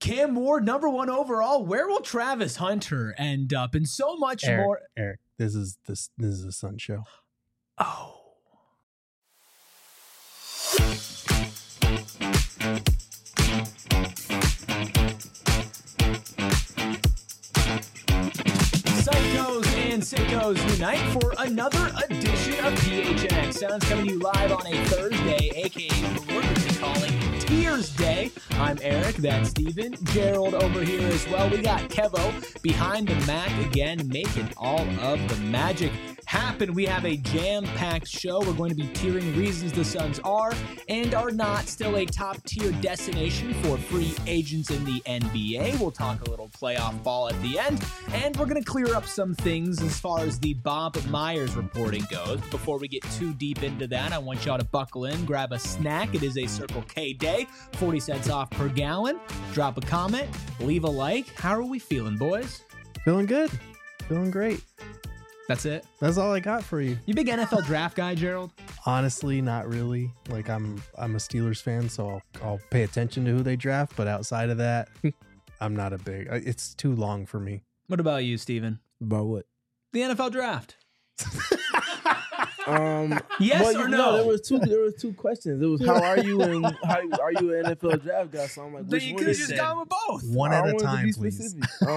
Cam Ward, #1 overall. Where will Travis Hunter end up? And so much more. Eric, this is a Sun show. Oh. Psychos and Sickos unite for another edition of PHNX Sounds, coming to you live on a Thursday, aka what we're calling Tears Day. I'm Eric, that's Steven, Gerald over here as well. We got Kevo behind the Mac again, making all of the magic happen. We have a jam-packed show. We're going to be tiering reasons the Suns are and are not still a top-tier destination for free agents in the NBA. We'll talk a little playoff ball at the end, and we're going to clear up some things as far as the Bob Myers reporting goes. Before we get too deep into that, I want y'all to buckle in, grab a snack. It is a Circle K day, 40 cents off per gallon. Drop a comment, leave a like. How are we feeling, boys? Feeling good. Feeling great. That's it? That's all I got for you. You big NFL draft guy, Gerald? Honestly, not really. Like I'm a Steelers fan, so I'll pay attention to who they draft. But outside of that, I'm not a big. It's too long for me. What about you, Steven? About what? The NFL draft. Yes or no? There was two questions. It was how are you and how are you an NFL draft guy? So I'm like, then you could have just gone with both. One at a time, please.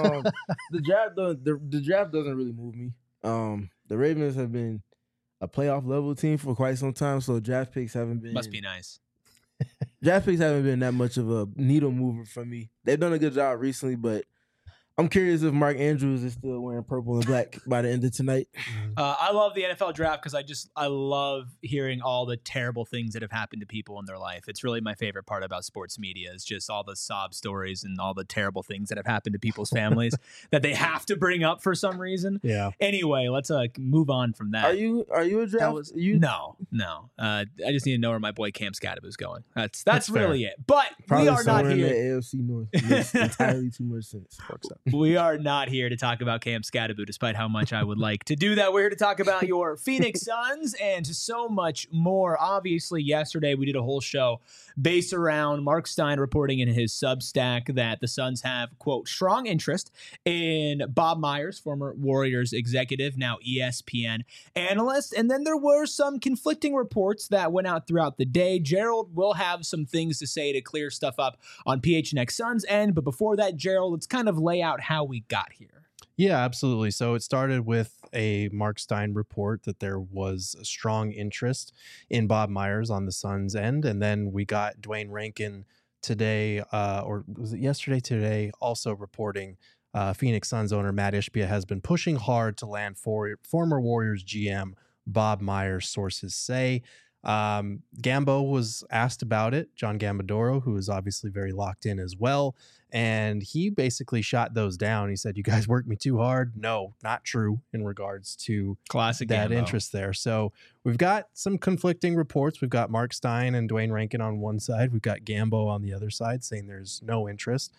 The draft doesn't really move me. The Ravens have been a playoff level team for quite some time, so draft picks haven't been. Must be nice. Draft picks haven't been that much of a needle mover for me. They've done a good job recently, but I'm curious if Mark Andrews is still wearing purple and black by the end of tonight. I love the NFL draft because I love hearing all the terrible things that have happened to people in their life. It's really my favorite part about sports media is just all the sob stories and all the terrible things that have happened to people's families that they have to bring up for some reason. Yeah. Anyway, let's move on from that. Are you a draft? No. I just need to know where my boy Cam Scadaboo is going. That's really it. But Probably we are not somewhere here. in the AFC North. It makes entirely too much sense. We are not here to talk about Cam Scadaboo, despite how much I would like to do that. We're here to talk about your Phoenix Suns and so much more. Obviously, yesterday we did a whole show based around Mark Stein reporting in his Substack that the Suns have, quote, strong interest in Bob Myers, former Warriors executive, now ESPN analyst. And then there were some conflicting reports that went out throughout the day. Gerald will have some things to say to clear stuff up on PHNX Suns end. But before that, Gerald, let's kind of lay out how we got here. Yeah, absolutely. So it started with a Mark Stein report that there was a strong interest in Bob Myers on the Suns' end. And then we got Dwayne Rankin today, or was it yesterday today, also reporting Phoenix Suns owner Matt Ishbia has been pushing hard to land former Warriors GM Bob Myers, sources say. Gambo was asked about it, John Gambadoro, who is obviously very locked in as well. And he basically shot those down. He said, you guys worked me too hard. No, not true in regards to classic that Gambo interest there. So we've got some conflicting reports. We've got Mark Stein and Dwayne Rankin on one side. We've got Gambo on the other side saying there's no interest.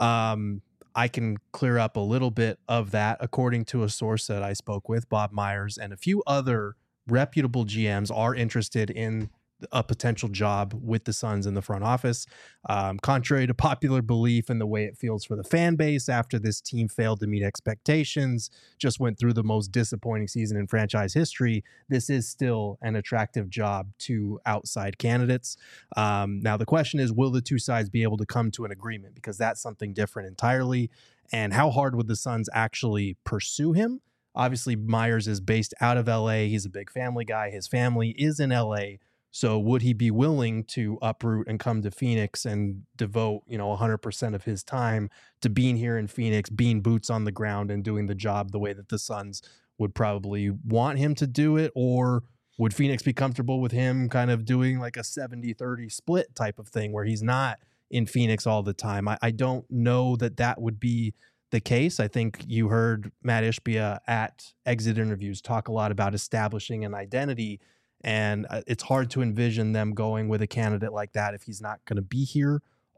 I can clear up a little bit of that. According to a source that I spoke with, Bob Myers and a few other reputable GMs are interested in a potential job with the Suns in the front office. Contrary to popular belief and the way it feels for the fan base after this team failed to meet expectations, just went through the most disappointing season in franchise history, this is still an attractive job to outside candidates. Now, the question is, will the two sides be able to come to an agreement? Because that's something different entirely. And how hard would the Suns actually pursue him? Obviously, Myers is based out of LA. He's a big family guy. His family is in LA. So would he be willing to uproot and come to Phoenix and devote, 100% of his time to being here in Phoenix, being boots on the ground and doing the job the way that the Suns would probably want him to do it? Or would Phoenix be comfortable with him kind of doing like a 70-30 split type of thing where he's not in Phoenix all the time? I don't know that would be the case. I think you heard Matt Ishbia at exit interviews talk a lot about establishing an identity. And it's hard to envision them going with a candidate like that if he's not going to be here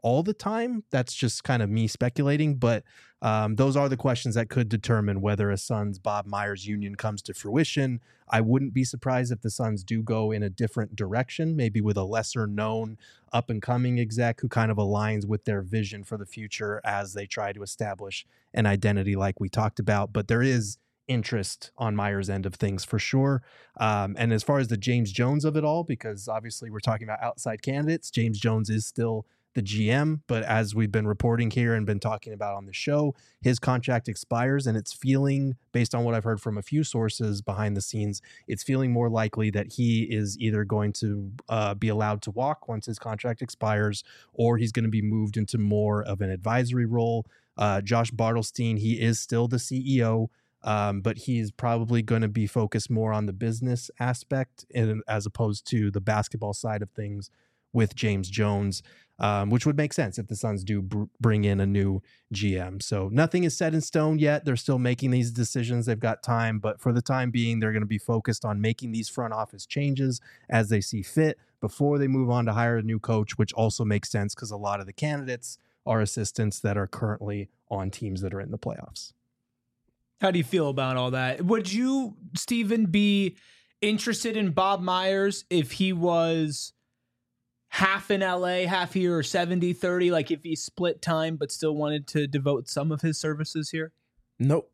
all the time. That's just kind of me speculating, but those are the questions that could determine whether a Suns Bob Myers union comes to fruition. I wouldn't be surprised if the Suns do go in a different direction, maybe with a lesser known up and coming exec who kind of aligns with their vision for the future as they try to establish an identity like we talked about. But there is interest on Myers' end of things for sure. And as far as the James Jones of it all, because obviously we're talking about outside candidates, James Jones is still the GM, but as we've been reporting here and been talking about on the show, his contract expires, and it's feeling, based on what I've heard from a few sources behind the scenes, it's feeling more likely that he is either going to be allowed to walk once his contract expires, or he's going to be moved into more of an advisory role. Josh Bartelstein, he is still the CEO, but he's probably going to be focused more on the business aspect as opposed to the basketball side of things with James Jones, which would make sense if the Suns do bring in a new GM. So nothing is set in stone yet. They're still making these decisions. They've got time, but for the time being, they're going to be focused on making these front office changes as they see fit before they move on to hire a new coach, which also makes sense because a lot of the candidates are assistants that are currently on teams that are in the playoffs. How do you feel about all that? Would you, Steven, be interested in Bob Myers if he was half in LA, half here, or 70-30, like if he split time but still wanted to devote some of his services here? Nope.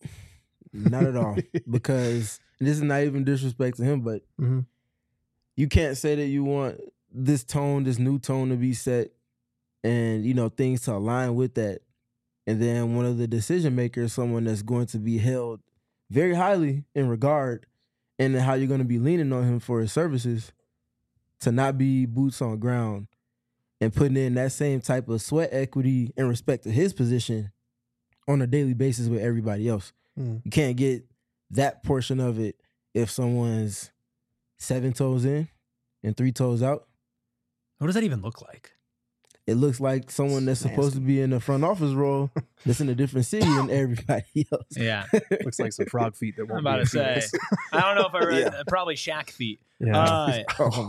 Not at all. Because this is not even disrespect to him, but you can't say that you want this tone, this new tone to be set and, you know, things to align with that. And then one of the decision makers, someone that's going to be held very highly in regard, and how you're going to be leaning on him for his services, to not be boots on ground and putting in that same type of sweat equity and respect to his position on a daily basis with everybody else. You can't get that portion of it if someone's 7 toes in and 3 toes out. What does that even look like? It looks like someone that's supposed to be in the front office role that's in a different city than everybody else. Yeah. Looks like some frog feet that won't I'm about to say. I don't know if I read probably Shaq feet. Yeah.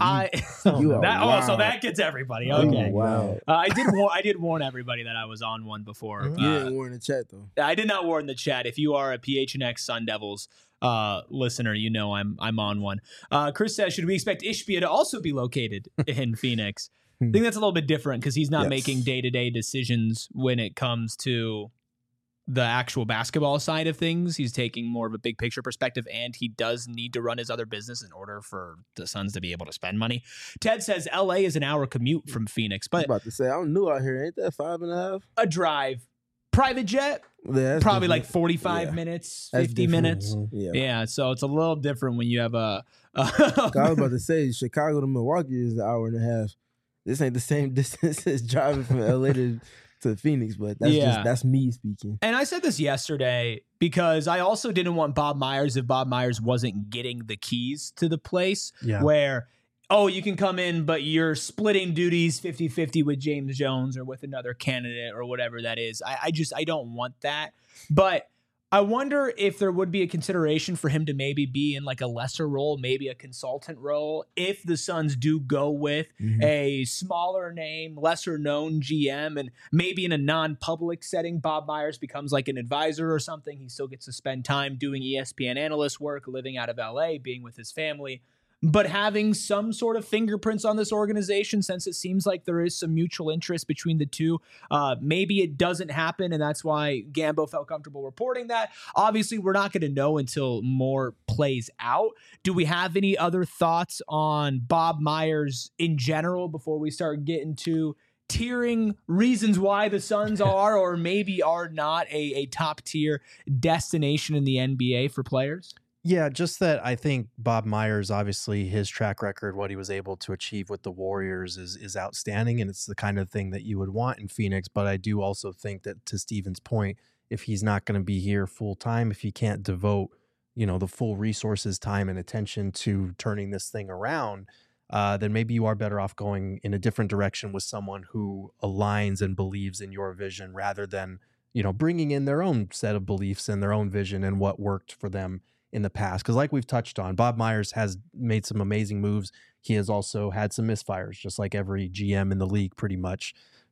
So that gets everybody. Okay. Oh, wow. I did warn everybody that I was on one before. You didn't warn the chat though. I did not warn the chat. If you are a PHNX Sun Devils listener, you know I'm on one. Chris says, should we expect Ishbia to also be located in Phoenix? I think that's a little bit different because he's not making day-to-day decisions when it comes to the actual basketball side of things. He's taking more of a big picture perspective, and he does need to run his other business in order for the Suns to be able to spend money. Ted says LA is an hour commute from Phoenix, but I was about to say, I'm new out here. Ain't that 5.5? a drive. Private jet, Yeah, probably different. like 45 minutes, That's 50 different. minutes. Yeah. Yeah, so it's a little different when you have I was about to say, Chicago to Milwaukee is an hour and a half. This ain't the same distance as driving from LA to Phoenix, but that's me speaking. And I said this yesterday because I also didn't want Bob Myers if Bob Myers wasn't getting the keys to the place where, you can come in, but you're splitting duties 50-50 with James Jones or with another candidate or whatever that is. I don't want that. But I wonder if there would be a consideration for him to maybe be in like a lesser role, maybe a consultant role, if the Suns do go with a smaller name, lesser known GM, and maybe in a non-public setting, Bob Myers becomes like an advisor or something. He still gets to spend time doing ESPN analyst work, living out of LA, being with his family, but having some sort of fingerprints on this organization, since it seems like there is some mutual interest between the two. Maybe it doesn't happen, and that's why Gambo felt comfortable reporting that. Obviously, we're not going to know until more plays out. Do we have any other thoughts on Bob Myers in general before we start getting to tiering reasons why the Suns are or maybe are not a top-tier destination in the NBA for players? Yeah, just that I think Bob Myers, obviously his track record, what he was able to achieve with the Warriors is outstanding, and it's the kind of thing that you would want in Phoenix. But I do also think that, to Steven's point, if he's not going to be here full time, if he can't devote, the full resources, time, and attention to turning this thing around, then maybe you are better off going in a different direction with someone who aligns and believes in your vision rather than, bringing in their own set of beliefs and their own vision and what worked for them in the past. Because like we've touched on, Bob Myers has made some amazing moves. He has also had some misfires, just like every GM in the league pretty much.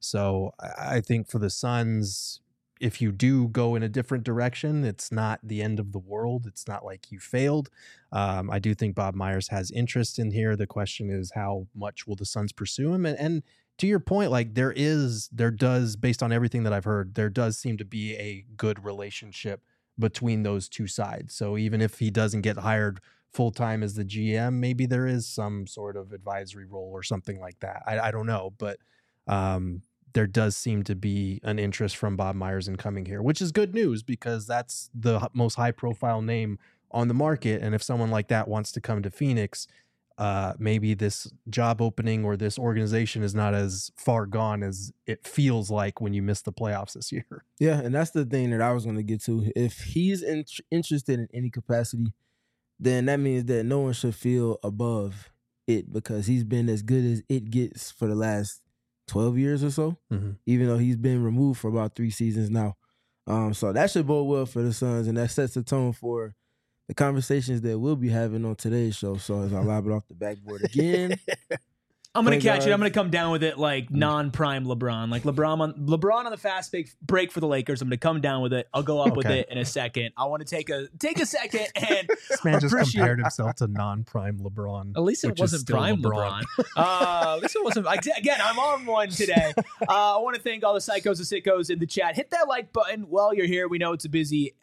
So I think for the Suns, if you do go in a different direction, it's not the end of the world. It's not like you failed. I do think Bob Myers has interest in here. The question is, how much will the Suns pursue him? And to your point, like there does, based on everything that I've heard, there does seem to be a good relationship between those two sides. So even if he doesn't get hired full-time as the GM, maybe there is some sort of advisory role or something like that. I don't know, but there does seem to be an interest from Bob Myers in coming here, which is good news because that's the most high-profile name on the market. And if someone like that wants to come to Phoenix, maybe this job opening or this organization is not as far gone as it feels like when you miss the playoffs this year. Yeah, and that's the thing that I was going to get to. If he's interested in any capacity, then that means that no one should feel above it because he's been as good as it gets for the last 12 years or so, even though he's been removed for about 3 seasons now. So that should bode well for the Suns, and that sets the tone for the conversations that we'll be having on today's show. So as I lob it off the backboard again. I'm going to catch it. I'm going to come down with it like non-prime LeBron. Like LeBron on the fast break for the Lakers. I'm going to come down with it. I'll go up with it in a second. I want to take a second and this man just compared himself to non-prime LeBron. At least it wasn't prime LeBron. At least it wasn't. Again, I'm on one today. I want to thank all the psychos and sickos in the chat. Hit that like button while you're here. We know it's a busy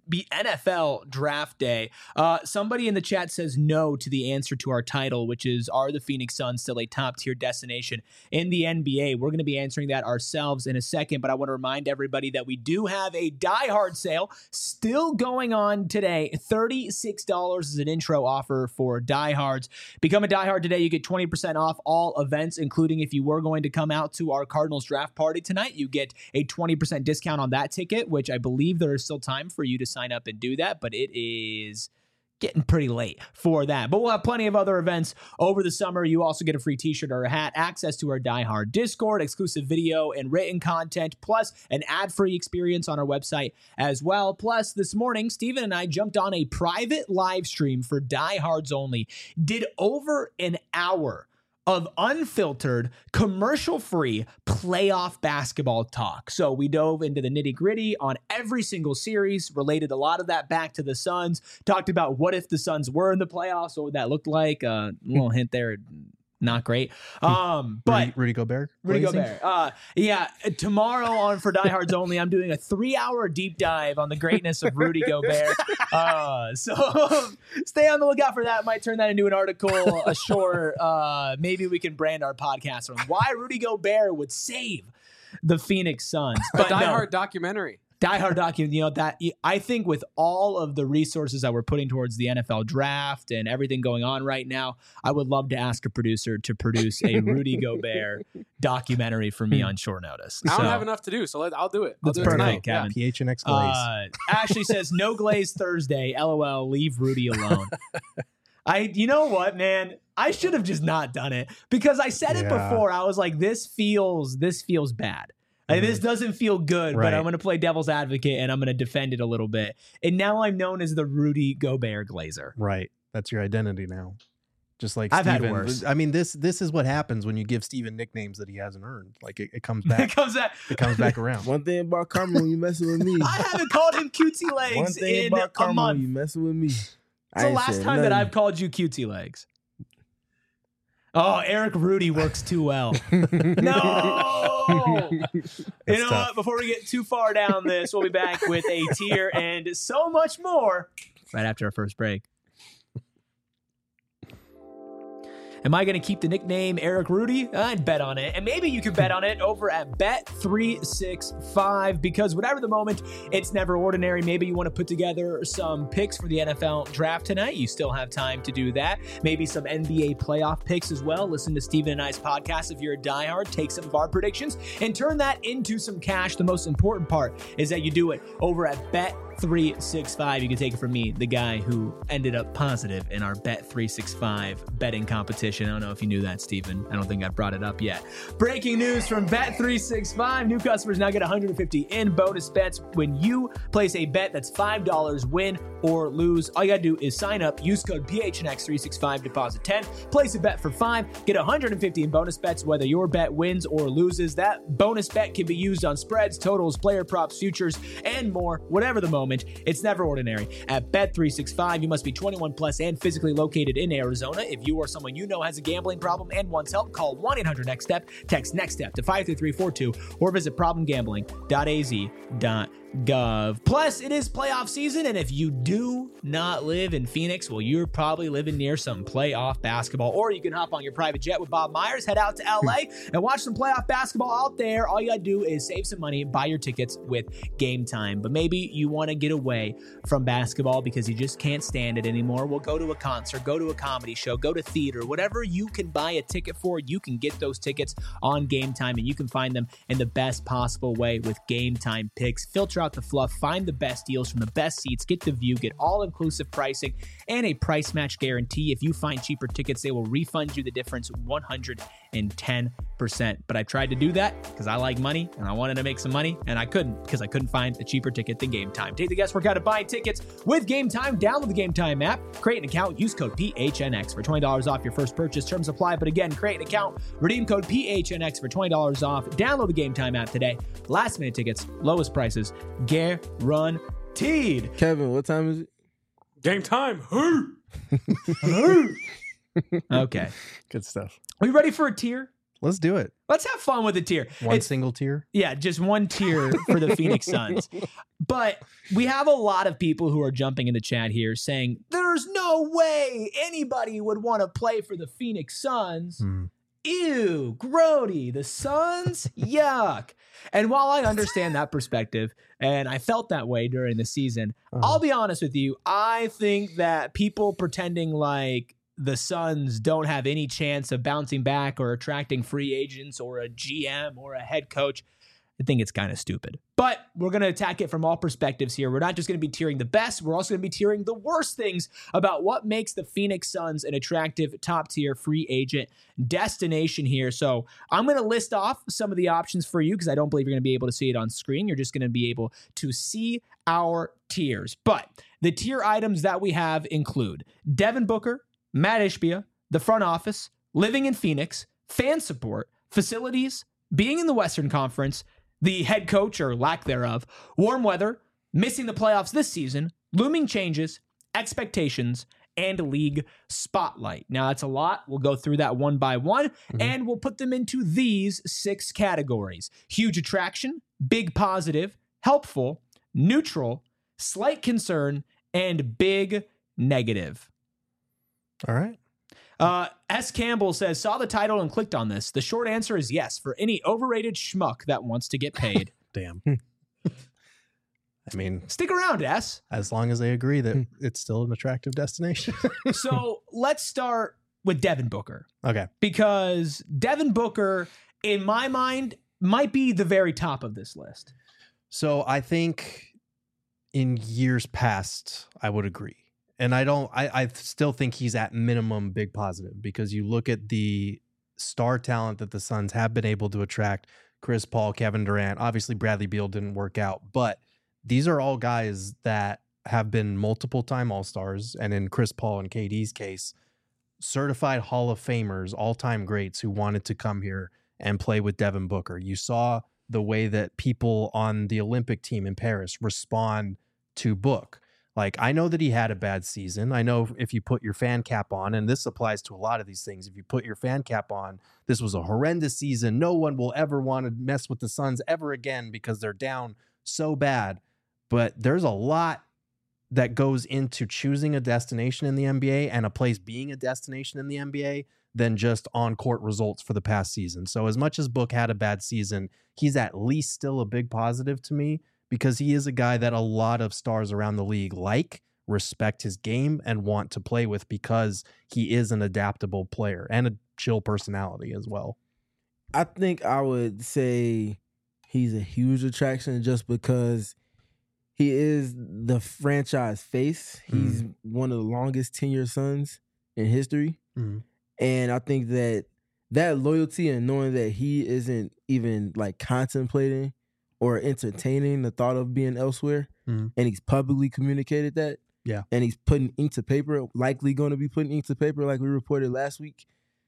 NFL draft day. Somebody in the chat says no to the answer to our title, which is, are the Phoenix Suns still a top-tier destination in the NBA? We're going to be answering that ourselves in a second, but I want to remind everybody that we do have a Die Hard sale still going on today. $36 is an intro offer for Die Hards. Become a Die Hard today. You get 20% off all events, including if you were going to come out to our Cardinals draft party tonight, you get a 20% discount on that ticket, which I believe there is still time for you to sign up and do that, but it is getting pretty late for that. But we'll have plenty of other events over the summer. You also get a free t-shirt or a hat, access to our Die Hard Discord, exclusive video and written content, plus an ad-free experience on our website as well. Plus, this morning, Steven and I jumped on a private live stream for Die Hards only, did over an hour of unfiltered, commercial-free playoff basketball talk. So we dove into the nitty-gritty on every single series, related a lot of that back to the Suns, talked about what if the Suns were in the playoffs, what would that look like? A little hint there, not great. But Rudy Gobert. Yeah. Tomorrow on For Die Hards Only, I'm doing a 3-hour deep dive on the greatness of Rudy Gobert. So stay on the lookout for that. Might turn that into an article, a short. Maybe we can brand our podcast on why Rudy Gobert would save the Phoenix Suns. But Die Hard documentary. Die Hard document, that I think with all of the resources that we're putting towards the NFL draft and everything going on right now, I would love to ask a producer to produce a Rudy Gobert documentary for me on short notice. I don't have enough to do, so I'll do it. I'll do it tonight, Kevin. Yeah. PHNX Glaze. Ashley says, no glaze Thursday. LOL, leave Rudy alone. You know what, man? I should have just not done it because I said it before. I was like, this feels bad. This doesn't feel good, but I'm going to play devil's advocate and I'm going to defend it a little bit. And now I'm known as the Rudy Gobert Glazer. Right. That's your identity now. Just like I've Steven. had worse. I mean, this is what happens when you give Steven nicknames that he hasn't earned. Like it comes back. It comes back around. One thing about Carmel, you messing with me. I haven't called him cutesy legs One thing in about Carmel, a month. you messing with me. It's the last time that I've called you cutesy legs. Oh, Eric Rudy works too well. No! You know what? Before we get too far down this, we'll be back with a tier and so much more right after our first break. Am I going to keep the nickname Eric Rudy? I'd bet on it. And maybe you could bet on it over at Bet365 because whatever the moment, it's never ordinary. Maybe you want to put together some picks for the NFL draft tonight. You still have time to do that. Maybe some NBA playoff picks as well. Listen to Steven and I's podcast if you're a diehard. Take some of our predictions and turn that into some cash. The most important part is that you do it over at Bet365. You can take it from me, the guy who ended up positive in our Bet365 betting competition. I don't know if you knew that, Steven. I don't think I brought it up yet. Breaking news from Bet365. New customers now get $150 in bonus bets when you place a bet that's $5. Win or lose. All you gotta do is sign up, use code PHNX365, deposit 10, place a bet for 5, get 150 in bonus bets whether your bet wins or loses. That bonus bet can be used on spreads, totals, player props, futures, and more. Whatever the moment, it's never ordinary. At Bet365, you must be 21 plus and physically located in Arizona. If you or someone you know has a gambling problem and wants help, call 1-800-NEXT-STEP, text NEXT-STEP to 53342, or visit problemgambling.az.gov. Plus, it is playoff season, and if you do not live in Phoenix, well, you're probably living near some playoff basketball, or you can hop on your private jet with Bob Myers, head out to LA, and watch some playoff basketball out there. All you gotta do is save some money, buy your tickets with Game Time. But maybe you want to get away from basketball because you just can't stand it anymore. Well, go to a concert, go to a comedy show, go to theater, whatever you can buy a ticket for, you can get those tickets on Game Time, and you can find them in the best possible way with Game Time picks. Filter out the fluff, find the best deals from the best seats, get the view, get all-inclusive pricing, and a price match guarantee. If you find cheaper tickets, they will refund you the difference 110%. But I tried to do that because I like money and I wanted to make some money, and I couldn't because I couldn't find a cheaper ticket than Game Time. Take the guesswork out of buying tickets with Game Time. Download the Game Time app, create an account, use code PHNX for $20 off your first purchase. Terms apply, but again, create an account, redeem code PHNX for $20 off. Download the Game Time app today. Last minute tickets, lowest prices, guaranteed. Kevin, what time is it? Game time. Okay. Good stuff. Are you ready for a tier? Let's do it. Let's have fun with a tier. One single tier? Yeah, just one tier for the Phoenix Suns. But we have a lot of people who are jumping in the chat here saying, there's no way anybody would want to play for the Phoenix Suns. Ew, grody, the Suns? Yuck. And while I understand that perspective, and I felt that way during the season, I'll be honest with you, I think that people pretending like the Suns don't have any chance of bouncing back or attracting free agents or a GM or a head coach, I think it's kind of stupid. But we're going to attack it from all perspectives here. We're not just going to be tiering the best. We're also going to be tiering the worst things about what makes the Phoenix Suns an attractive top-tier free agent destination here. So I'm going to list off some of the options for you because I don't believe you're going to be able to see it on screen. You're just going to be able to see our tiers. But the tier items that we have include Devin Booker, Matt Ishbia, the front office, living in Phoenix, fan support, facilities, being in the Western Conference, the head coach or lack thereof, warm weather, missing the playoffs this season, looming changes, expectations, and league spotlight. Now, that's a lot. We'll go through that one by one, and we'll put them into these 6 categories. Huge attraction, big positive, helpful, neutral, slight concern, and big negative. All right. S. Campbell says, saw the title and clicked on this. The short answer is yes, for any overrated schmuck that wants to get paid. Damn. I mean, stick around, S. As long as they agree that it's still an attractive destination. So let's start with Devin Booker. Okay. Because Devin Booker, in my mind, might be the very top of this list. So I think in years past, I would agree. And I still think he's at minimum big positive because you look at the star talent that the Suns have been able to attract, Chris Paul, Kevin Durant, obviously Bradley Beal didn't work out, but these are all guys that have been multiple time All-Stars. And in Chris Paul and KD's case, certified Hall of Famers, all-time greats who wanted to come here and play with Devin Booker. You saw the way that people on the Olympic team in Paris respond to Book. Like, I know that he had a bad season. I know if you put your fan cap on, and this applies to a lot of these things, if you put your fan cap on, this was a horrendous season. No one will ever want to mess with the Suns ever again because they're down so bad. But there's a lot that goes into choosing a destination in the NBA and a place being a destination in the NBA than just on-court results for the past season. So as much as Book had a bad season, he's at least still a big positive to me, because he is a guy that a lot of stars around the league respect his game, and want to play with because he is an adaptable player and a chill personality as well. I think I would say he's a huge attraction just because he is the franchise face. He's one of the longest tenured Suns in history. And I think that loyalty and knowing that he isn't even like contemplating or entertaining the thought of being elsewhere, and he's publicly communicated that, Yeah. And he's putting ink to paper, likely going to be putting ink to paper like we reported last week.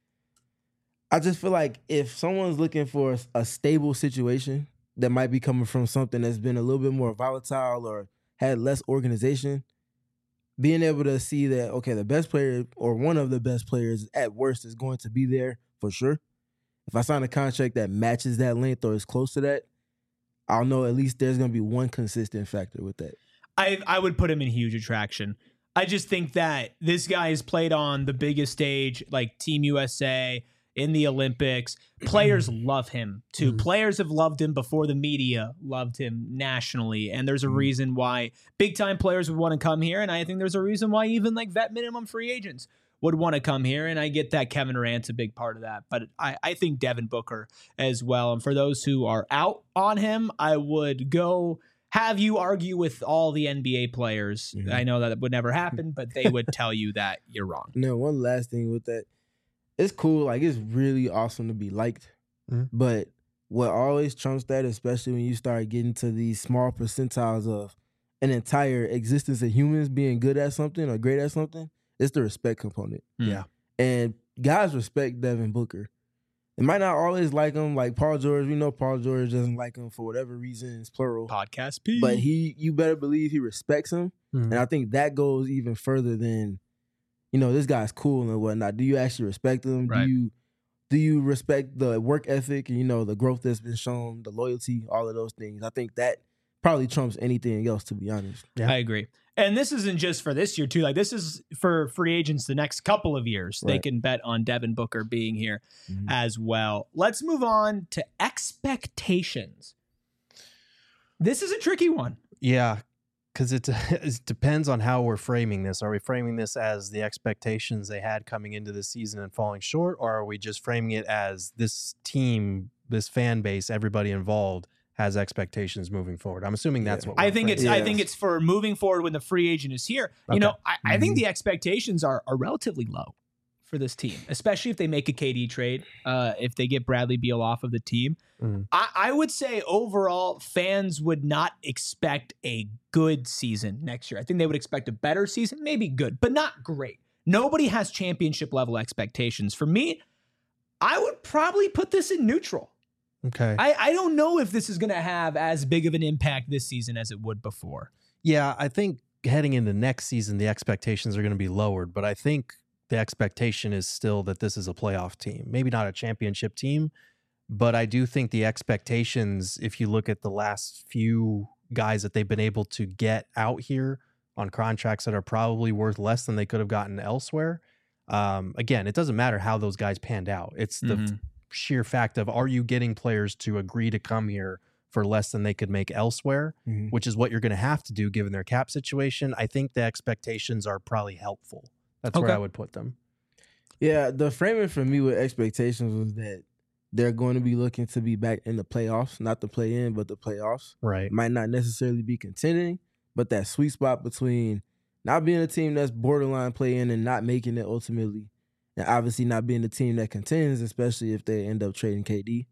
I just feel like if someone's looking for a stable situation that might be coming from something that's been a little bit more volatile or had less organization, being able to see that, okay, the best player or one of the best players at worst is going to be there for sure. If I sign a contract that matches that length or is close to that, I'll know at least there's going to be one consistent factor with that. I would put him in huge attraction. I just think that this guy has played on the biggest stage, like Team USA, in the Olympics. Players love him too. Players have loved him before the media loved him nationally. And there's a reason why big time players would want to come here. And I think there's a reason why even like vet minimum free agents would want to come here. And I get that Kevin Durant's a big part of that. But I think Devin Booker as well. And for those who are out on him, I would go have you argue with all the NBA players. I know that would never happen, but they would tell you that you're wrong. Now, one last thing with that. It's cool. Like, it's really awesome to be liked. But what always trumps that, especially when you start getting to these small percentiles of an entire existence of humans being good at something or great at something, it's the respect component. Yeah. And guys respect Devin Booker. They might not always like him. Like Paul George, we know Paul George doesn't like him for whatever reason. It's plural. Podcast P. But you better believe he respects him. And I think that goes even further than, you know, this guy's cool and whatnot. Do you actually respect him? Right. Do you respect the work ethic and, you know, the growth that's been shown, the loyalty, all of those things? I think that probably trumps anything else, to be honest. Yeah. I agree. And this isn't just for this year, too. Like, this is for free agents the next couple of years. Right. They can bet on Devin Booker being here as well. Let's move on to expectations. This is a tricky one. Yeah, because it depends on how we're framing this. Are we framing this as the expectations they had coming into the season and falling short, or are we just framing it as this team, this fan base, everybody involved has expectations moving forward? I'm assuming that's what we're I think it's for moving forward when the free agent is here. Okay. You know, I think the expectations are relatively low for this team, especially if they make a KD trade, if they get Bradley Beal off of the team. I would say overall fans would not expect a good season next year. I think they would expect a better season, maybe good, but not great. Nobody has championship level expectations. For me, I would probably put this in neutral. Okay. I don't know if this is going to have as big of an impact this season as it would before. Yeah, I think heading into next season, the expectations are going to be lowered, but I think the expectation is still that this is a playoff team. Maybe not a championship team, but I do think the expectations, if you look at the last few guys that they've been able to get out here on contracts that are probably worth less than they could have gotten elsewhere. Again, it doesn't matter how those guys panned out. It's the sheer fact of, are you getting players to agree to come here for less than they could make elsewhere, which is what you're going to have to do given their cap situation. I think the expectations are probably helpful. That's where I would put them. Yeah, the framing for me with expectations was that they're going to be looking to be back in the playoffs, not the play-in, but the playoffs. Right. Might not necessarily be contending, but that sweet spot between not being a team that's borderline play-in and not making it ultimately, and obviously not being the team that contends, especially if they end up trading KD.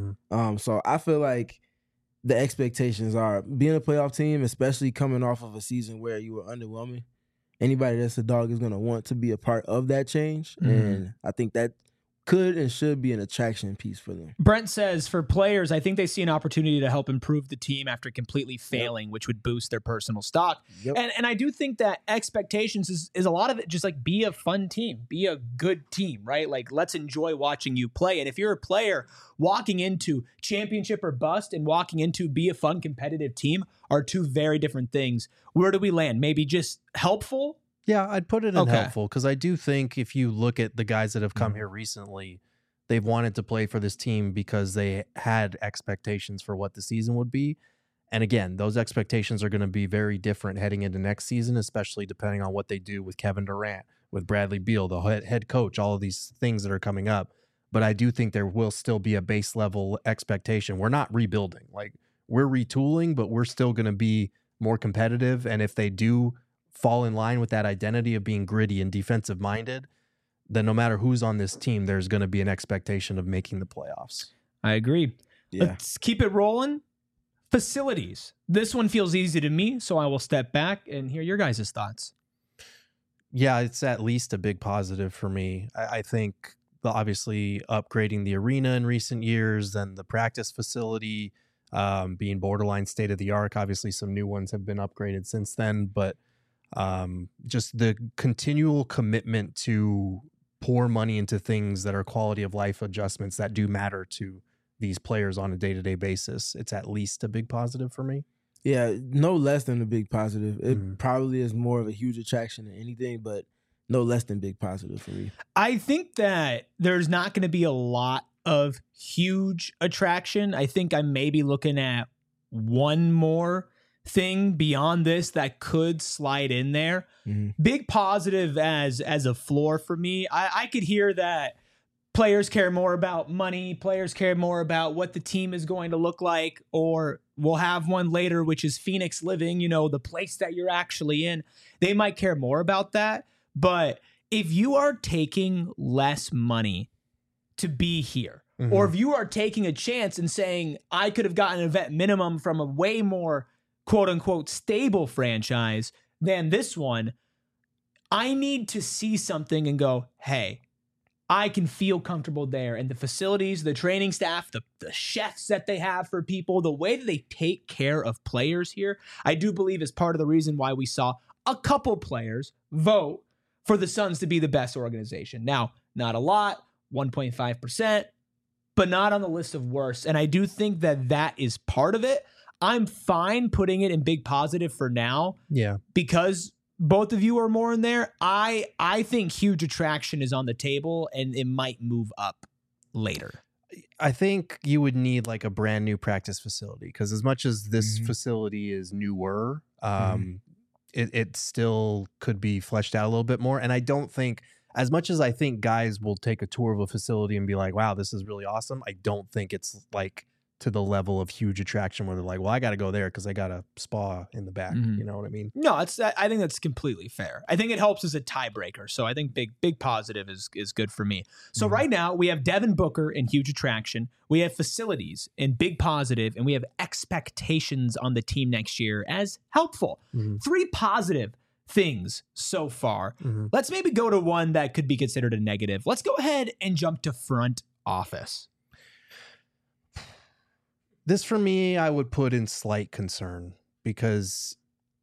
So I feel like the expectations are being a playoff team, especially coming off of a season where you were underwhelming. Anybody that's a dog is going to want to be a part of that change. And I think that could and should be an attraction piece for them. Brent says, for players, I think they see an opportunity to help improve the team after completely failing, which would boost their personal stock. And I do think that expectations is a lot of it just like be a fun team, be a good team, right? Like, let's enjoy watching you play. And if you're a player walking into championship or bust and walking into be a fun, competitive team are two very different things. Where do we land? Maybe just helpful? Yeah, I'd put it in helpful, because I do think if you look at the guys that have come here recently, they've wanted to play for this team because they had expectations for what the season would be. And again, those expectations are going to be very different heading into next season, especially depending on what they do with Kevin Durant, with Bradley Beal, the head coach, all of these things that are coming up. But I do think there will still be a base level expectation. We're not rebuilding. Like, we're retooling, but we're still going to be more competitive. And if they do fall in line with that identity of being gritty and defensive minded, then no matter who's on this team, there's going to be an expectation of making the playoffs. I agree. Yeah. Let's keep it rolling. Facilities. This one feels easy to me, so I will step back and hear your guys' thoughts. Yeah, it's at least a big positive for me. I think obviously upgrading the arena in recent years, then the practice facility being borderline state of the art. Obviously, some new ones have been upgraded since then, but just the continual commitment to pour money into things that are quality of life adjustments that do matter to these players on a day-to-day basis. It's at least a big positive for me. Yeah, no less than a big positive. It probably is more of a huge attraction than anything, but no less than big positive for me. I think that there's not going to be a lot of huge attraction. I think I may be looking at one more thing beyond this that could slide in there. Big positive as a floor for me. I could hear that players care more about money. Players care more about what the team is going to look like, or we'll have one later, which is Phoenix Living, the place that you're actually in. They might care more about that. But if you are taking less money to be here, or if you are taking a chance and saying, I could have gotten an event minimum from a way more quote unquote stable franchise than this one, I need to see something and go, hey, I can feel comfortable there. And the facilities, the training staff, the chefs that they have for people, the way that they take care of players here, I do believe is part of the reason why we saw a couple players vote for the Suns to be the best organization. Now, not a lot, 1.5%, but not on the list of worst. And I do think that that is part of it. I'm fine putting it in big positive for now. Yeah. Because both of you are more in there. I think huge attraction is on the table, and it might move up later. I think you would need like a brand new practice facility, because as much as this facility is newer, it still could be fleshed out a little bit more. And I don't think, as much as I think guys will take a tour of a facility and be like, wow, this is really awesome, I don't think it's like to the level of huge attraction where they're like, well, I got to go there because I got a spa in the back. You know what I mean? No, I think that's completely fair. I think it helps as a tiebreaker. So I think big positive is good for me. So right now we have Devin Booker in huge attraction. We have facilities in big positive, and we have expectations on the team next year as helpful. 3 positive things so far. Let's maybe go to one that could be considered a negative. Let's go ahead and jump to front office. This, for me, I would put in slight concern, because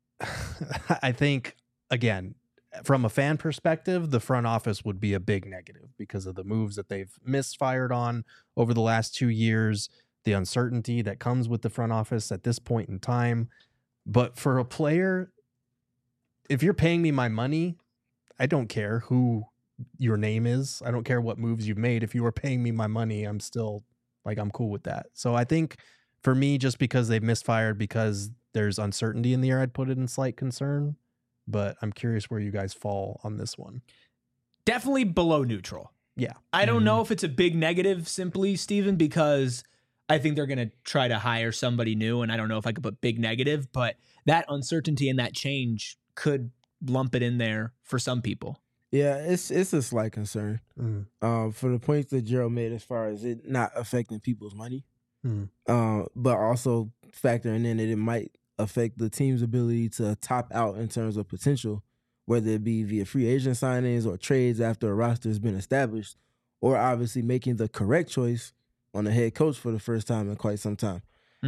I think, again, from a fan perspective, the front office would be a big negative because of the moves that they've misfired on over the last 2 years, the uncertainty that comes with the front office at this point in time. But for a player, if you're paying me my money, I don't care who your name is. I don't care what moves you've made. If you were paying me my money, I'm still... I'm cool with that. So I think for me, just because they've misfired, because there's uncertainty in the air, I'd put it in slight concern. But I'm curious where you guys fall on this one. Definitely below neutral. Yeah. I don't know if it's a big negative simply, Steven, because I think they're going to try to hire somebody new. And I don't know if I could put big negative, but that uncertainty and that change could lump it in there for some people. Yeah, it's a slight concern for the points that Gerald made as far as it not affecting people's money, but also factoring in that it might affect the team's ability to top out in terms of potential, whether it be via free agent signings or trades after a roster has been established, or obviously making the correct choice on the head coach for the first time in quite some time.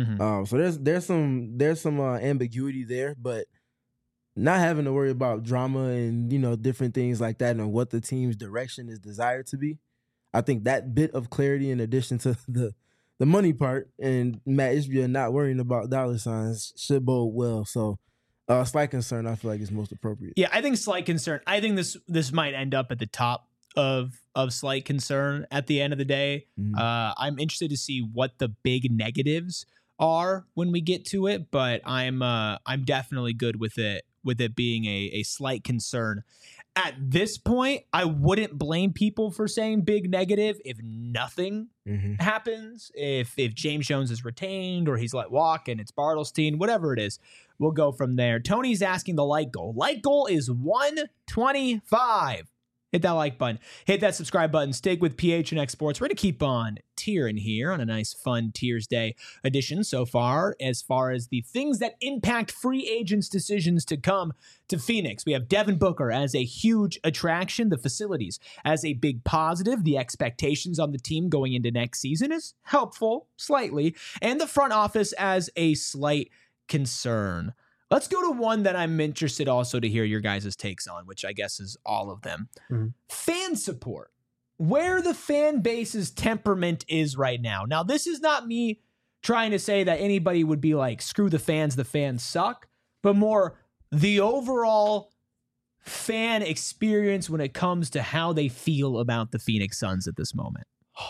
So there's some ambiguity there, but not having to worry about drama and, different things like that and what the team's direction is desired to be. I think that bit of clarity, in addition to the money part and Matt Ishbia not worrying about dollar signs, should bode well. So slight concern, I feel like, is most appropriate. Yeah, I think slight concern. I think this might end up at the top of slight concern at the end of the day. I'm interested to see what the big negatives are when we get to it, but I'm definitely good with it being a slight concern. At this point, I wouldn't blame people for saying big negative if nothing happens. If James Jones is retained or he's let walk and it's Bartelstein, whatever it is, we'll go from there. Tony's asking the light goal. Light goal is 125. Hit that like button. Hit that subscribe button. Stick with PHNX Sports. We're going to keep on tiering here on a nice, fun Tiers Day edition so far as the things that impact free agents' decisions to come to Phoenix. We have Devin Booker as a huge attraction, the facilities as a big positive, the expectations on the team going into next season is helpful, slightly, and the front office as a slight concern. Let's go to one that I'm interested also to hear your guys' takes on, which I guess is all of them. Mm-hmm. Fan support. Where the fan base's temperament is right now. Now, this is not me trying to say that anybody would be like, screw the fans suck, but more the overall fan experience when it comes to how they feel about the Phoenix Suns at this moment.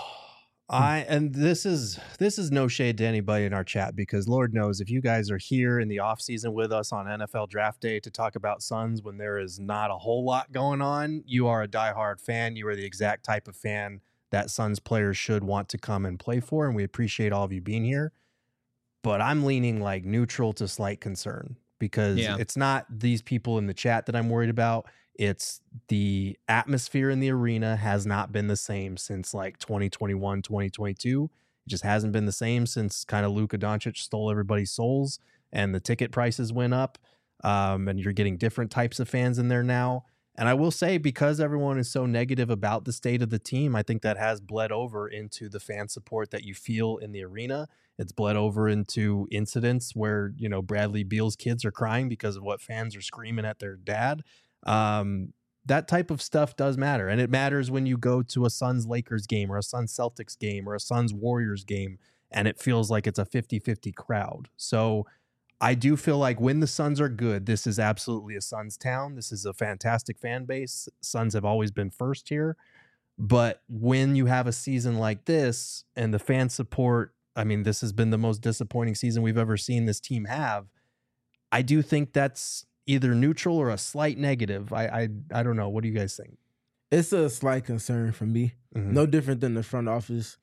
And this is no shade to anybody in our chat, because Lord knows if you guys are here in the offseason with us on NFL Draft Day to talk about Suns when there is not a whole lot going on, you are a diehard fan. You are the exact type of fan that Suns players should want to come and play for, and we appreciate all of you being here. But I'm leaning like neutral to slight concern, because it's not these people in the chat that I'm worried about. It's the atmosphere in the arena has not been the same since like 2021, 2022. It just hasn't been the same since kind of Luka Doncic stole everybody's souls and the ticket prices went up. And you're getting different types of fans in there now. And I will say, because everyone is so negative about the state of the team, I think that has bled over into the fan support that you feel in the arena. It's bled over into incidents where, you know, Bradley Beal's kids are crying because of what fans are screaming at their dad. That type of stuff does matter. And it matters when you go to a Suns Lakers game or a Suns Celtics game or a Suns Warriors game, and it feels like it's a 50-50 crowd. So I do feel like when the Suns are good, this is absolutely a Suns town. This is a fantastic fan base. Suns have always been first here. But when you have a season like this and the fan support, I mean, this has been the most disappointing season we've ever seen this team have. I do think that's either neutral or a slight negative. I don't know. What do you guys think? It's a slight concern for me. Mm-hmm. No different than the front office.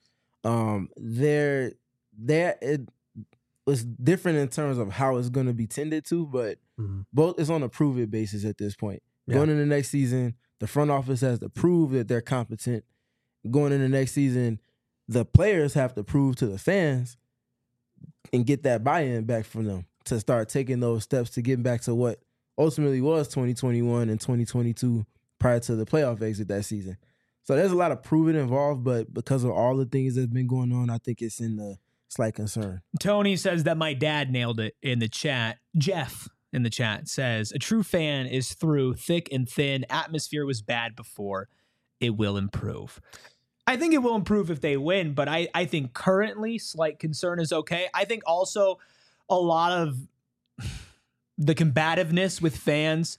It was different in terms of how it's going to be tended to, but both is on a prove it basis at this point. Yeah. Going into the next season, the front office has to prove that they're competent. Going into the next season, the players have to prove to the fans and get that buy-in back from them to start taking those steps to get back to what ultimately was 2021 and 2022 prior to the playoff exit that season. So there's a lot of proving involved, but because of all the things that's been going on, I think it's in the slight concern. Tony says that my dad nailed it in the chat. Jeff in the chat says, a true fan is through thick and thin. Atmosphere was bad before. It will improve. I think it will improve if they win, but I think currently slight concern is okay. I think also a lot of the combativeness with fans,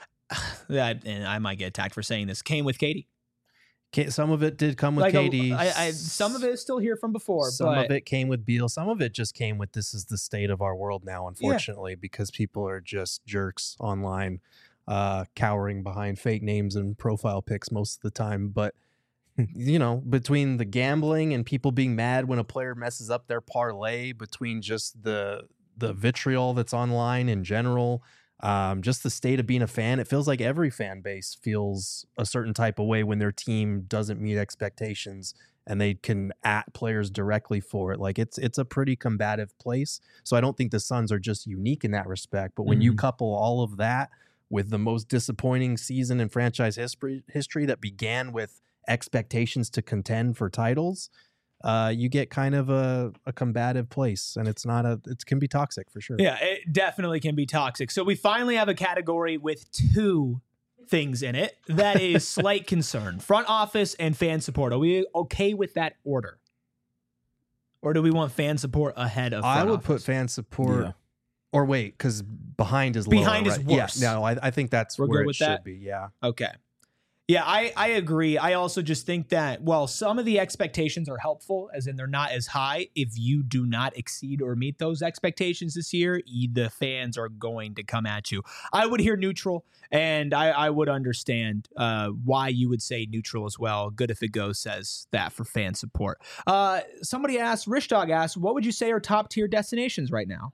and I might get attacked for saying this, came with KD. Some of it did come with KD. Some of it is still here from before. Some of it came with Beal. Some of it just came with this is the state of our world now, unfortunately, because people are just jerks online, cowering behind fake names and profile pics most of the time. But, you know, between the gambling and people being mad when a player messes up their parlay, between just the vitriol that's online in general, just the state of being a fan, it feels like every fan base feels a certain type of way when their team doesn't meet expectations and they can at players directly for it. Like it's a pretty combative place. So I don't think the Suns are just unique in that respect. But when you couple all of that with the most disappointing season in franchise history that began with expectations to contend for titles, you get kind of a combative place, and it can be toxic for sure. Yeah, it definitely can be toxic. So we finally have a category with two things in it. That is slight concern, front office and fan support. Are we okay with that order? Or do we want fan support ahead of front I would office? Put fan support, or wait, because behind is behind lower, is right? worse. Yeah, no, I think that's We're where good it with should that? be, yeah. Okay. Yeah, I agree. I also just think that, well, some of the expectations are helpful, as in they're not as high. If you do not exceed or meet those expectations this year, the fans are going to come at you. I would hear neutral, and I would understand why you would say neutral as well. Good if it goes says that for fan support. Somebody asked, Rich Dog asked, what would you say are top tier destinations right now?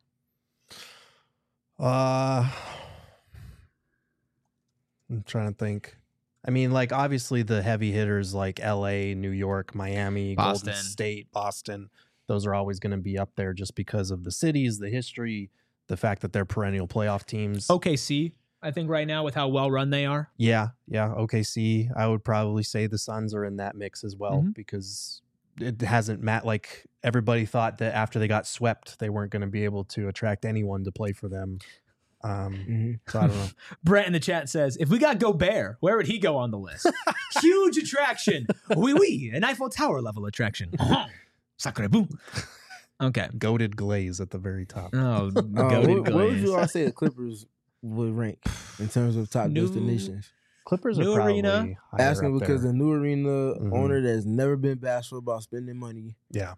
I'm trying to think. I mean, like, obviously the heavy hitters like LA, New York, Miami, Boston. Golden State, Boston, those are always going to be up there just because of the cities, the history, the fact that they're perennial playoff teams. OKC, I think right now with how well run they are. Yeah. OKC, I would probably say the Suns are in that mix as well because it hasn't like everybody thought that after they got swept, they weren't going to be able to attract anyone to play for them. So I don't know. Brett in the chat says, if we got Gobert, where would he go on the list? Huge attraction. Oui, an Eiffel Tower level attraction. Sacre boom. Okay. Goated Glaze at the very top. Oh, where would you all say the Clippers would rank in terms of top destinations? Clippers new are probably arena. Asking because there. the new arena owner that's never been bashful about spending money. Yeah.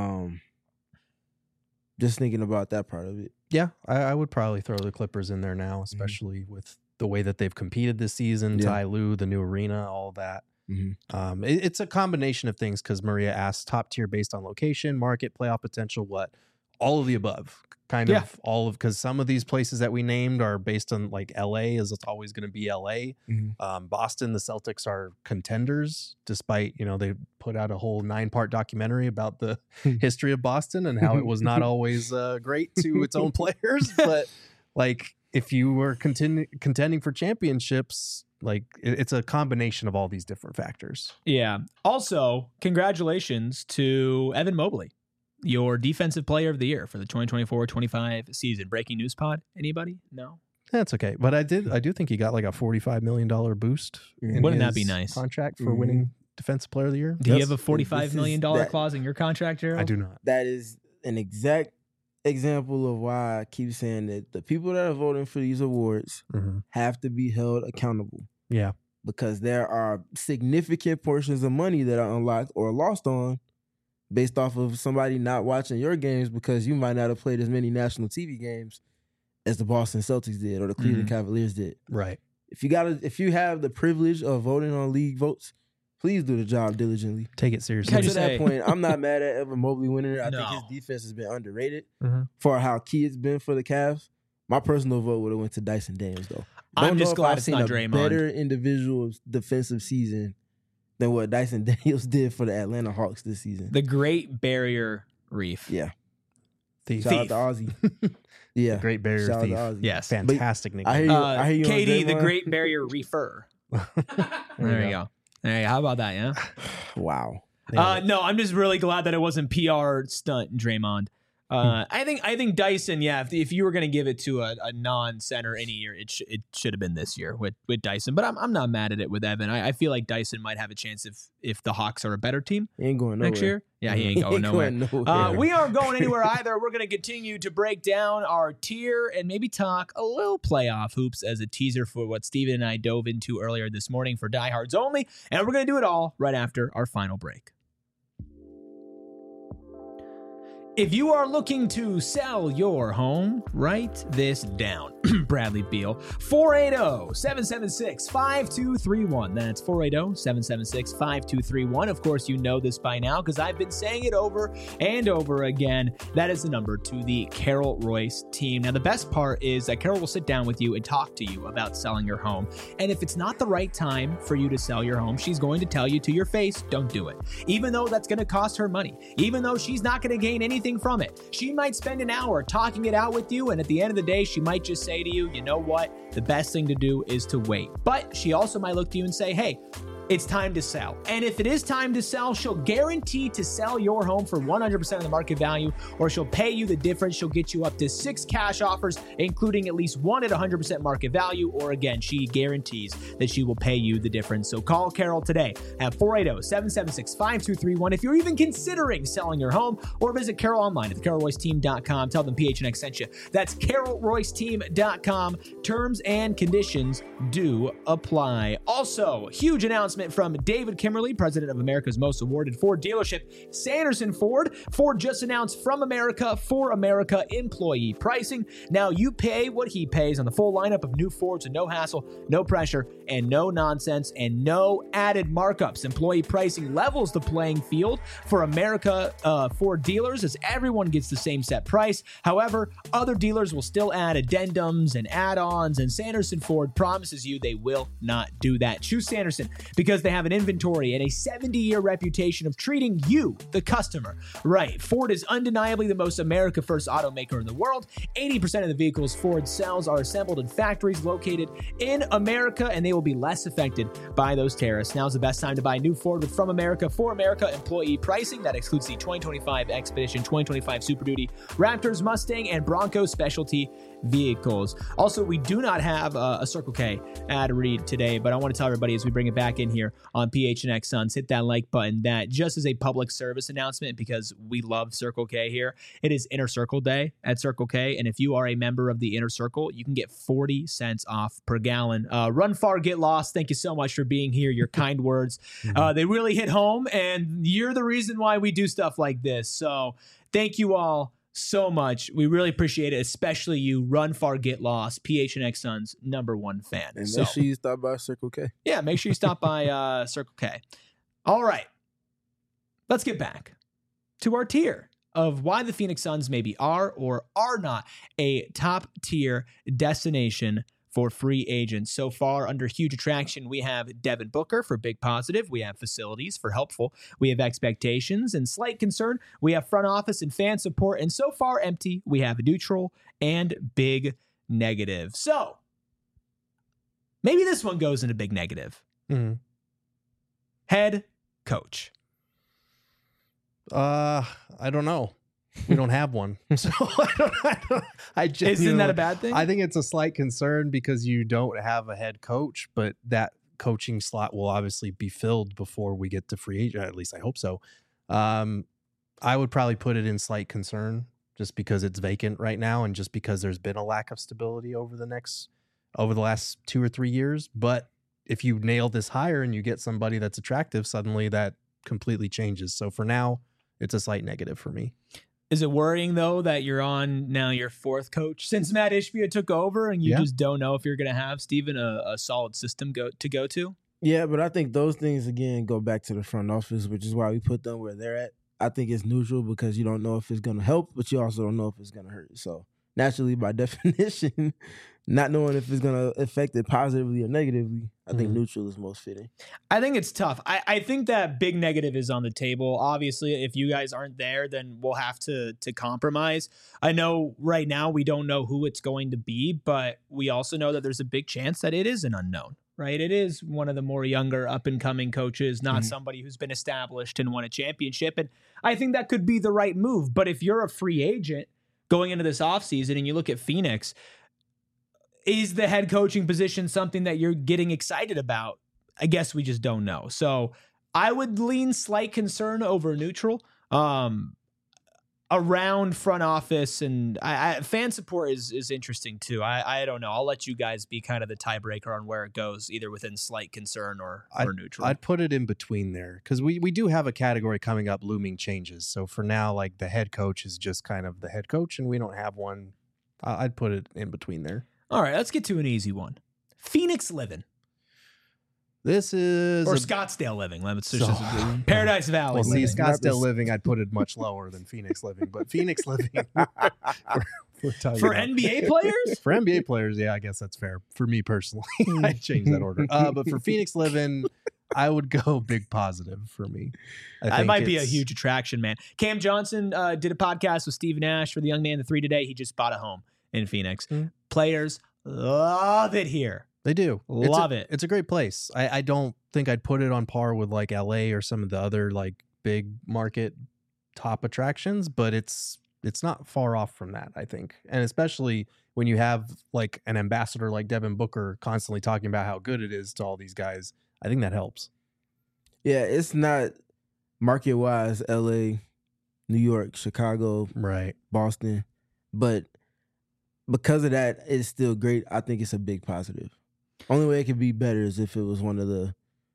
Just thinking about that part of it. Yeah, I would probably throw the Clippers in there now, especially with the way that they've competed this season. Yeah. Ty Lue, the new arena, all that. It's a combination of things because Maria asked top tier based on location, market, playoff potential, what? All of the above. Kind of all of, because some of these places that we named are based on like LA, as it's always going to be LA. Boston, the Celtics are contenders, despite, they put out a whole 9-part documentary about the history of Boston and how it was not always great to its own players. But like, if you were contending for championships, like it's a combination of all these different factors. Yeah. Also, congratulations to Evan Mobley, your defensive player of the year for the 2024-25 season. Breaking news pod. Anybody? No? That's okay. But I do think he got like a $45 million boost. Wouldn't that be nice? Contract for winning defensive player of the year. Do you have a $45 million clause in your contract, Gerald? I do not. That is an exact example of why I keep saying that the people that are voting for these awards have to be held accountable. Yeah. Because there are significant portions of money that are unlocked or lost on based off of somebody not watching your games because you might not have played as many national TV games as the Boston Celtics did or the Cleveland Cavaliers did. Right. If you have the privilege of voting on league votes, please do the job diligently. Take it seriously. To that point, I'm not mad at Evan Mobley winning it. I think his defense has been underrated for how key it's been for the Cavs. My personal vote would have went to Dyson Daniels, though. I'm just glad it's not Draymond. Better individual defensive season than what Dyson Daniels did for the Atlanta Hawks this season. The Great Barrier Reef. Yeah. Thief. Shout out to Ozzy. Yeah. The Great Barrier Shout Thief. out to Ozzy. Yes. Fantastic nickname. I hear you Katie, on the Draymond. Great Barrier Reefer. There you go. Hey, how about that, yeah? Wow. No, I'm just really glad that it wasn't PR stunt Draymond. I think Dyson, if you were going to give it to a non-center any year, it should have been this year with Dyson. But I'm not mad at it with Evan. I feel like Dyson might have a chance if the Hawks are a better team He ain't going nowhere. next year. Yeah, he ain't going nowhere. We aren't going anywhere either. We're going to continue to break down our tier and maybe talk a little playoff hoops as a teaser for what Steven and I dove into earlier this morning for Diehards Only. And we're going to do it all right after our final break. If you are looking to sell your home, write this down. Bradley Beal, 480-776-5231. That's 480-776-5231. Of course, you know this by now because I've been saying it over and over again. That is the number to the Carol Royce team. Now, the best part is that Carol will sit down with you and talk to you about selling your home. And if it's not the right time for you to sell your home, she's going to tell you to your face, don't do it. Even though that's going to cost her money, even though she's not going to gain anything from it. She might spend an hour talking it out with you, and at the end of the day, she might just say to you, you know what? The best thing to do is to wait. But she also might look to you and say, hey, it's time to sell. And if it is time to sell, she'll guarantee to sell your home for 100% of the market value, or she'll pay you the difference. She'll get you up to 6 cash offers, including at least 1 at 100% market value, or again, she guarantees that she will pay you the difference. So call Carol today at 480-776-5231 if you're even considering selling your home, or visit Carol online at thecarolroyceteam.com. Tell them PHNX sent you. That's carolroyceteam.com. Terms and conditions do apply. Also, huge announcement announcement from David Kimmerly, president of America's most awarded Ford dealership, Sanderson Ford. Ford just announced from America for America employee pricing. Now you pay what he pays on the full lineup of new Fords with no hassle, no pressure, and no nonsense, and no added markups. Employee pricing levels the playing field for America Ford dealers as everyone gets the same set price. However, other dealers will still add addendums and add-ons, and Sanderson Ford promises you they will not do that. Choose Sanderson because they have an inventory and a 70-year reputation of treating you, the customer, right. Ford is undeniably the most America-first automaker in the world. 80% of the vehicles Ford sells are assembled in factories located in America, and they will be less affected by those tariffs. Now's the best time to buy a new Ford with From America for America employee pricing. That excludes the 2025 Expedition, 2025 Super Duty, Raptors, Mustang, and Bronco specialty vehicles. Also, we do not have a Circle K ad read today, but I want to tell everybody as we bring it back in here on PHNX Suns, hit that like button. That just as a public service announcement, because we love Circle K here. It is Inner Circle Day at Circle K, and if you are a member of the Inner Circle, you can get 40 cents off per gallon. Run far, get lost. Thank you so much for being here. Your kind words, they really hit home, and you're the reason why we do stuff like this. So thank you all so much. We really appreciate it, especially you, Run Far, Get Lost, PHNX Suns #1 fan. And make sure you stop by Circle K. Yeah, make sure you stop by Circle K. All right, let's get back to our tier of why the Phoenix Suns maybe are or are not a top-tier destination for free agents. So far, under huge attraction, we have Devin Booker for big positive. We have facilities for helpful. We have expectations and slight concern. We have front office and fan support. And so far, empty, we have neutral and big negative. So maybe this one goes into big negative. Head coach. I don't know. We don't have one. So Isn't that a bad thing? I think it's a slight concern because you don't have a head coach, but that coaching slot will obviously be filled before we get to free agent. At least I hope so. I would probably put it in slight concern just because it's vacant right now and just because there's been a lack of stability over the last 2 or 3 years. But if you nail this hire and you get somebody that's attractive, suddenly that completely changes. So for now, it's a slight negative for me. Is it worrying, though, that you're on now your fourth coach since Matt Ishbia took over and you just don't know if you're going to have, Steven, a solid system to go to? Yeah, but I think those things, again, go back to the front office, which is why we put them where they're at. I think it's neutral because you don't know if it's going to help, but you also don't know if it's going to hurt. So naturally, by definition, not knowing if it's going to affect it positively or negatively, I think neutral is most fitting. I think it's tough. I think that big negative is on the table. Obviously, if you guys aren't there, then we'll have to compromise. I know right now we don't know who it's going to be, but we also know that there's a big chance that it is an unknown, right? It is one of the more younger up-and-coming coaches, not somebody who's been established and won a championship. And I think that could be the right move. But if you're a free agent going into this offseason and you look at Phoenix, is the head coaching position something that you're getting excited about? I guess we just don't know. So I would lean slight concern over neutral. Around front office and fan support is interesting too. I don't know. I'll let you guys be kind of the tiebreaker on where it goes, either within slight concern or neutral. I'd put it in between there because we do have a category coming up, looming changes. So for now, like the head coach is just kind of the head coach and we don't have one. I'd put it in between there. All right, let's get to an easy one. Phoenix living. This is... Or Scottsdale living. Paradise Valley. Well, see, Scottsdale living, I'd put it much lower than Phoenix living. But Phoenix living... we're for NBA players? For NBA players, yeah, I guess that's fair. For me personally, I'd change that order. But for Phoenix living, I would go big positive for me. That might be a huge attraction, man. Cam Johnson did a podcast with Steve Nash for the Young Man the 3 today. He just bought a home in Phoenix. Players love it here. They do. Love it. It's a great place. I don't think I'd put it on par with like LA or some of the other like big market top attractions, but it's not far off from that, I think. And especially when you have like an ambassador like Devin Booker constantly talking about how good it is to all these guys, I think that helps. Yeah, it's not market-wise LA, New York, Chicago, right, Boston, but because of that, it's still great. I think it's a big positive. Only way it could be better is if it was one of the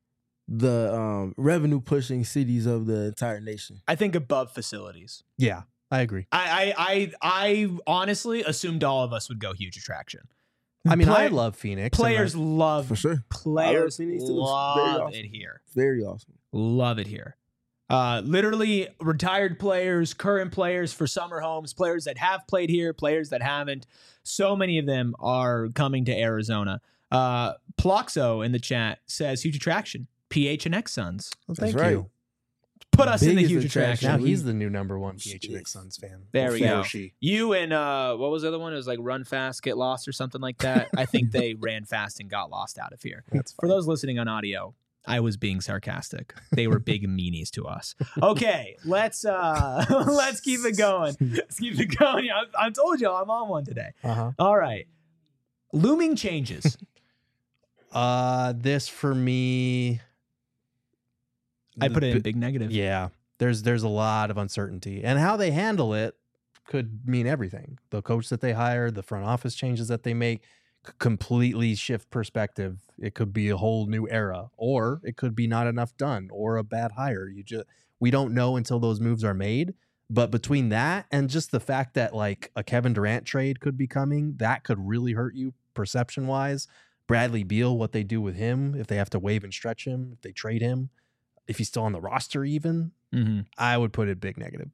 the revenue pushing cities of the entire nation. I think above facilities. Yeah, I agree. I honestly assumed all of us would go huge attraction. I mean, I love Phoenix. Players love for sure. Players Phoenix too. love it here. Very awesome. Love it here. Literally retired players, current players for summer homes, players that have played here, players that haven't. So many of them are coming to Arizona. Ploxo in the chat says huge attraction. PHNX Suns. Well, thank right. you. Put us in the Biggest huge attraction. attraction. Now he's the new #1 PHNX Suns fan. There we go. She. You and what was the other one? It was like run fast, get lost or something like that. I think they ran fast and got lost out of here. That's For those listening on audio, I was being sarcastic. They were big meanies to us. Okay, let's keep it going. Let's keep it going. I told you I'm on one today. All right. Looming changes. This for me, I put it in big negative. Yeah, there's a lot of uncertainty, and how they handle it could mean everything. The coach that they hire, the front office changes that they make, could completely shift perspective. It could be a whole new era, or it could be not enough done, or a bad hire. We don't know until those moves are made. But between that and just the fact that like a Kevin Durant trade could be coming, that could really hurt you perception wise. Bradley Beal, what they do with him, if they have to waive and stretch him, if they trade him, if he's still on the roster even, I would put it big negative.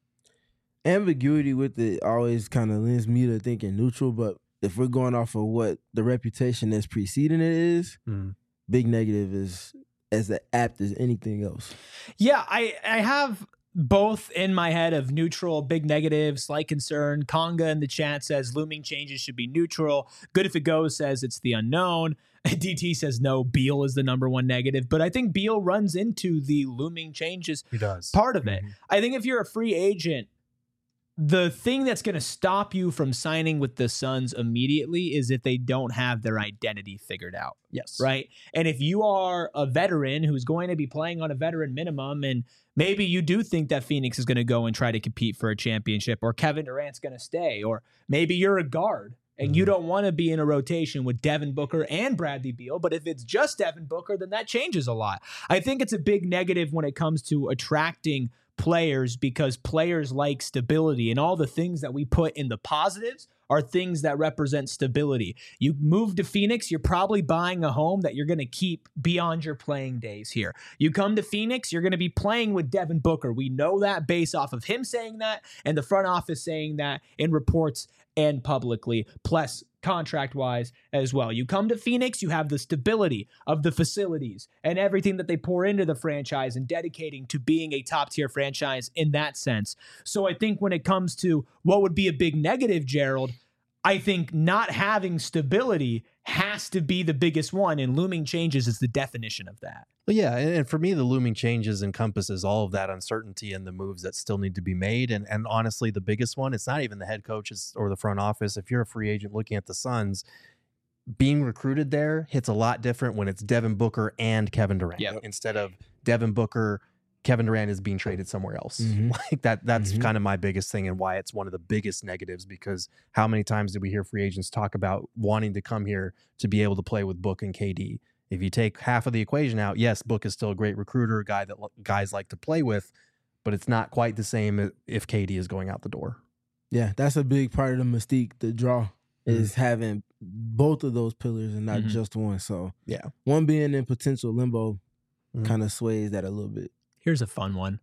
Ambiguity with it always kind of lends me to thinking neutral, but if we're going off of what the reputation that's preceding it is, big negative is as apt as anything else. Yeah, I have both in my head of neutral, big negative, slight concern. Conga in the chat says looming changes should be neutral. Good if it goes says it's the unknown. DT says no, Beal is the #1 negative. But I think Beal runs into the looming changes part of it. I think if you're a free agent, the thing that's going to stop you from signing with the Suns immediately is if they don't have their identity figured out. Yes. Right? And if you are a veteran who's going to be playing on a veteran minimum, and maybe you do think that Phoenix is going to go and try to compete for a championship, or Kevin Durant's going to stay, or maybe you're a guard and you don't want to be in a rotation with Devin Booker and Bradley Beal, but if it's just Devin Booker, then that changes a lot. I think it's a big negative when it comes to attracting players, because players like stability, and all the things that we put in the positives are things that represent stability. You move to Phoenix, you're probably buying a home that you're going to keep beyond your playing days here. You come to Phoenix, you're going to be playing with Devin Booker. We know that based off of him saying that and the front office saying that in reports and publicly, plus contract-wise as well. You come to Phoenix, you have the stability of the facilities and everything that they pour into the franchise and dedicating to being a top-tier franchise in that sense. So I think when it comes to what would be a big negative, Gerald, I think not having stability has to be the biggest one, and looming changes is the definition of that. Well, yeah, and for me, the looming changes encompasses all of that uncertainty and the moves that still need to be made. And honestly, the biggest one, it's not even the head coaches or the front office. If you're a free agent looking at the Suns, being recruited there hits a lot different when it's Devin Booker and Kevin Durant instead of Devin Booker. Kevin Durant is being traded somewhere else. Like that's kind of my biggest thing, and why it's one of the biggest negatives, because how many times did we hear free agents talk about wanting to come here to be able to play with Book and KD? If you take half of the equation out, yes, Book is still a great recruiter, a guy that guys like to play with, but it's not quite the same if KD is going out the door. Yeah, that's a big part of the mystique, the draw, is having both of those pillars and not just one. So yeah, one being in potential limbo kind of sways that a little bit. Here's a fun one.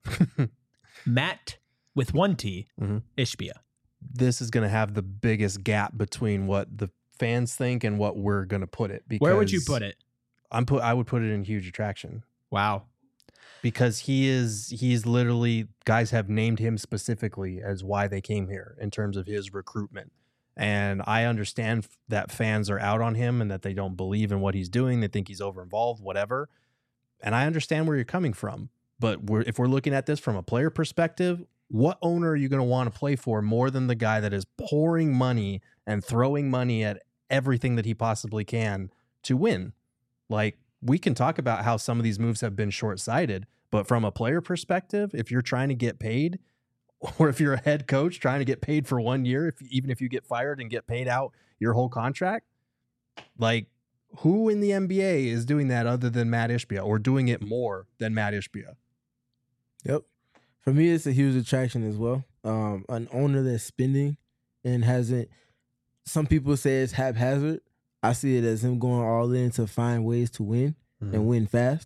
Matt with 1T, Ishbia. This is going to have the biggest gap between what the fans think and what we're going to put it. Because where would you put it? I would put it in huge attraction. Wow. Because he's literally, guys have named him specifically as why they came here in terms of his recruitment. And I understand that fans are out on him and that they don't believe in what he's doing. They think he's over-involved, whatever. And I understand where you're coming from. But if we're looking at this from a player perspective, what owner are you going to want to play for more than the guy that is pouring money and throwing money at everything that he possibly can to win? Like, we can talk about how some of these moves have been short-sighted, but from a player perspective, if you're trying to get paid, or if you're a head coach trying to get paid for 1 year, even if you get fired and get paid out your whole contract, like, Who in the NBA is doing that other than Matt Ishbia, or doing it more than Matt Ishbia? Yep. For me, it's a huge attraction as well. An owner that's spending and hasn't. Some people say it's haphazard. I see it as him going all in to find ways to win and win fast.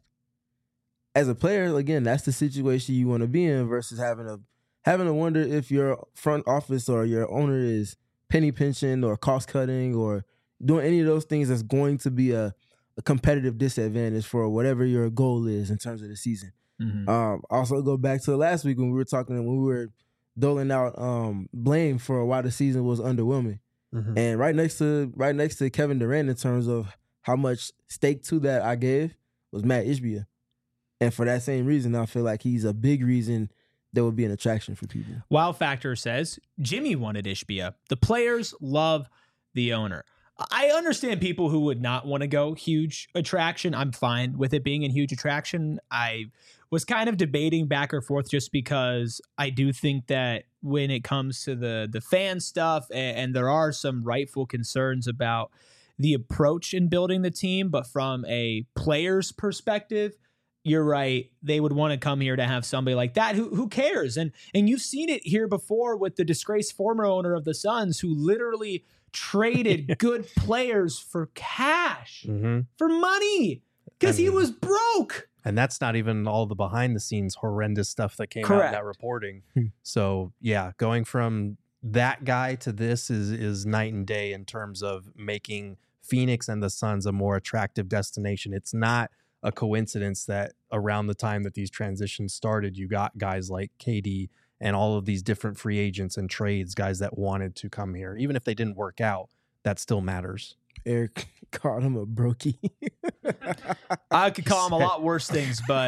As a player, again, that's the situation you want to be in versus having to wonder if your front office or your owner is penny pinching or cost cutting or doing any of those things that's going to be a competitive disadvantage for whatever your goal is in terms of the season. Also go back to last week when we were doling out blame for why the season was underwhelming. And right next to Kevin Durant in terms of how much stake to that I gave was Matt Ishbia. And for that same reason, I feel like he's a big reason there would be an attraction for people. Wow Factor says Jimmy wanted Ishbia. The players love the owner. I understand people who would not want to go huge attraction. I'm fine with it being a huge attraction. I was kind of debating back or forth just because I do think that when it comes to the fan stuff, and there are some rightful concerns about the approach in building the team, but from a player's perspective, you're right. They would want to come here to have somebody like that who cares. And you've seen it here before with the disgraced former owner of the Suns who literally traded good players for cash, for money, because he was broke. And that's not even all the behind the scenes horrendous stuff that came out in that reporting. So yeah, going from that guy to this is night and day in terms of making Phoenix and the Suns a more attractive destination. It's not a coincidence that around the time that these transitions started, you got guys like KD and all of these different free agents and trades, guys that wanted to come here. Even if they didn't work out, that still matters. Eric called him a brokey. I could call him a lot worse things, but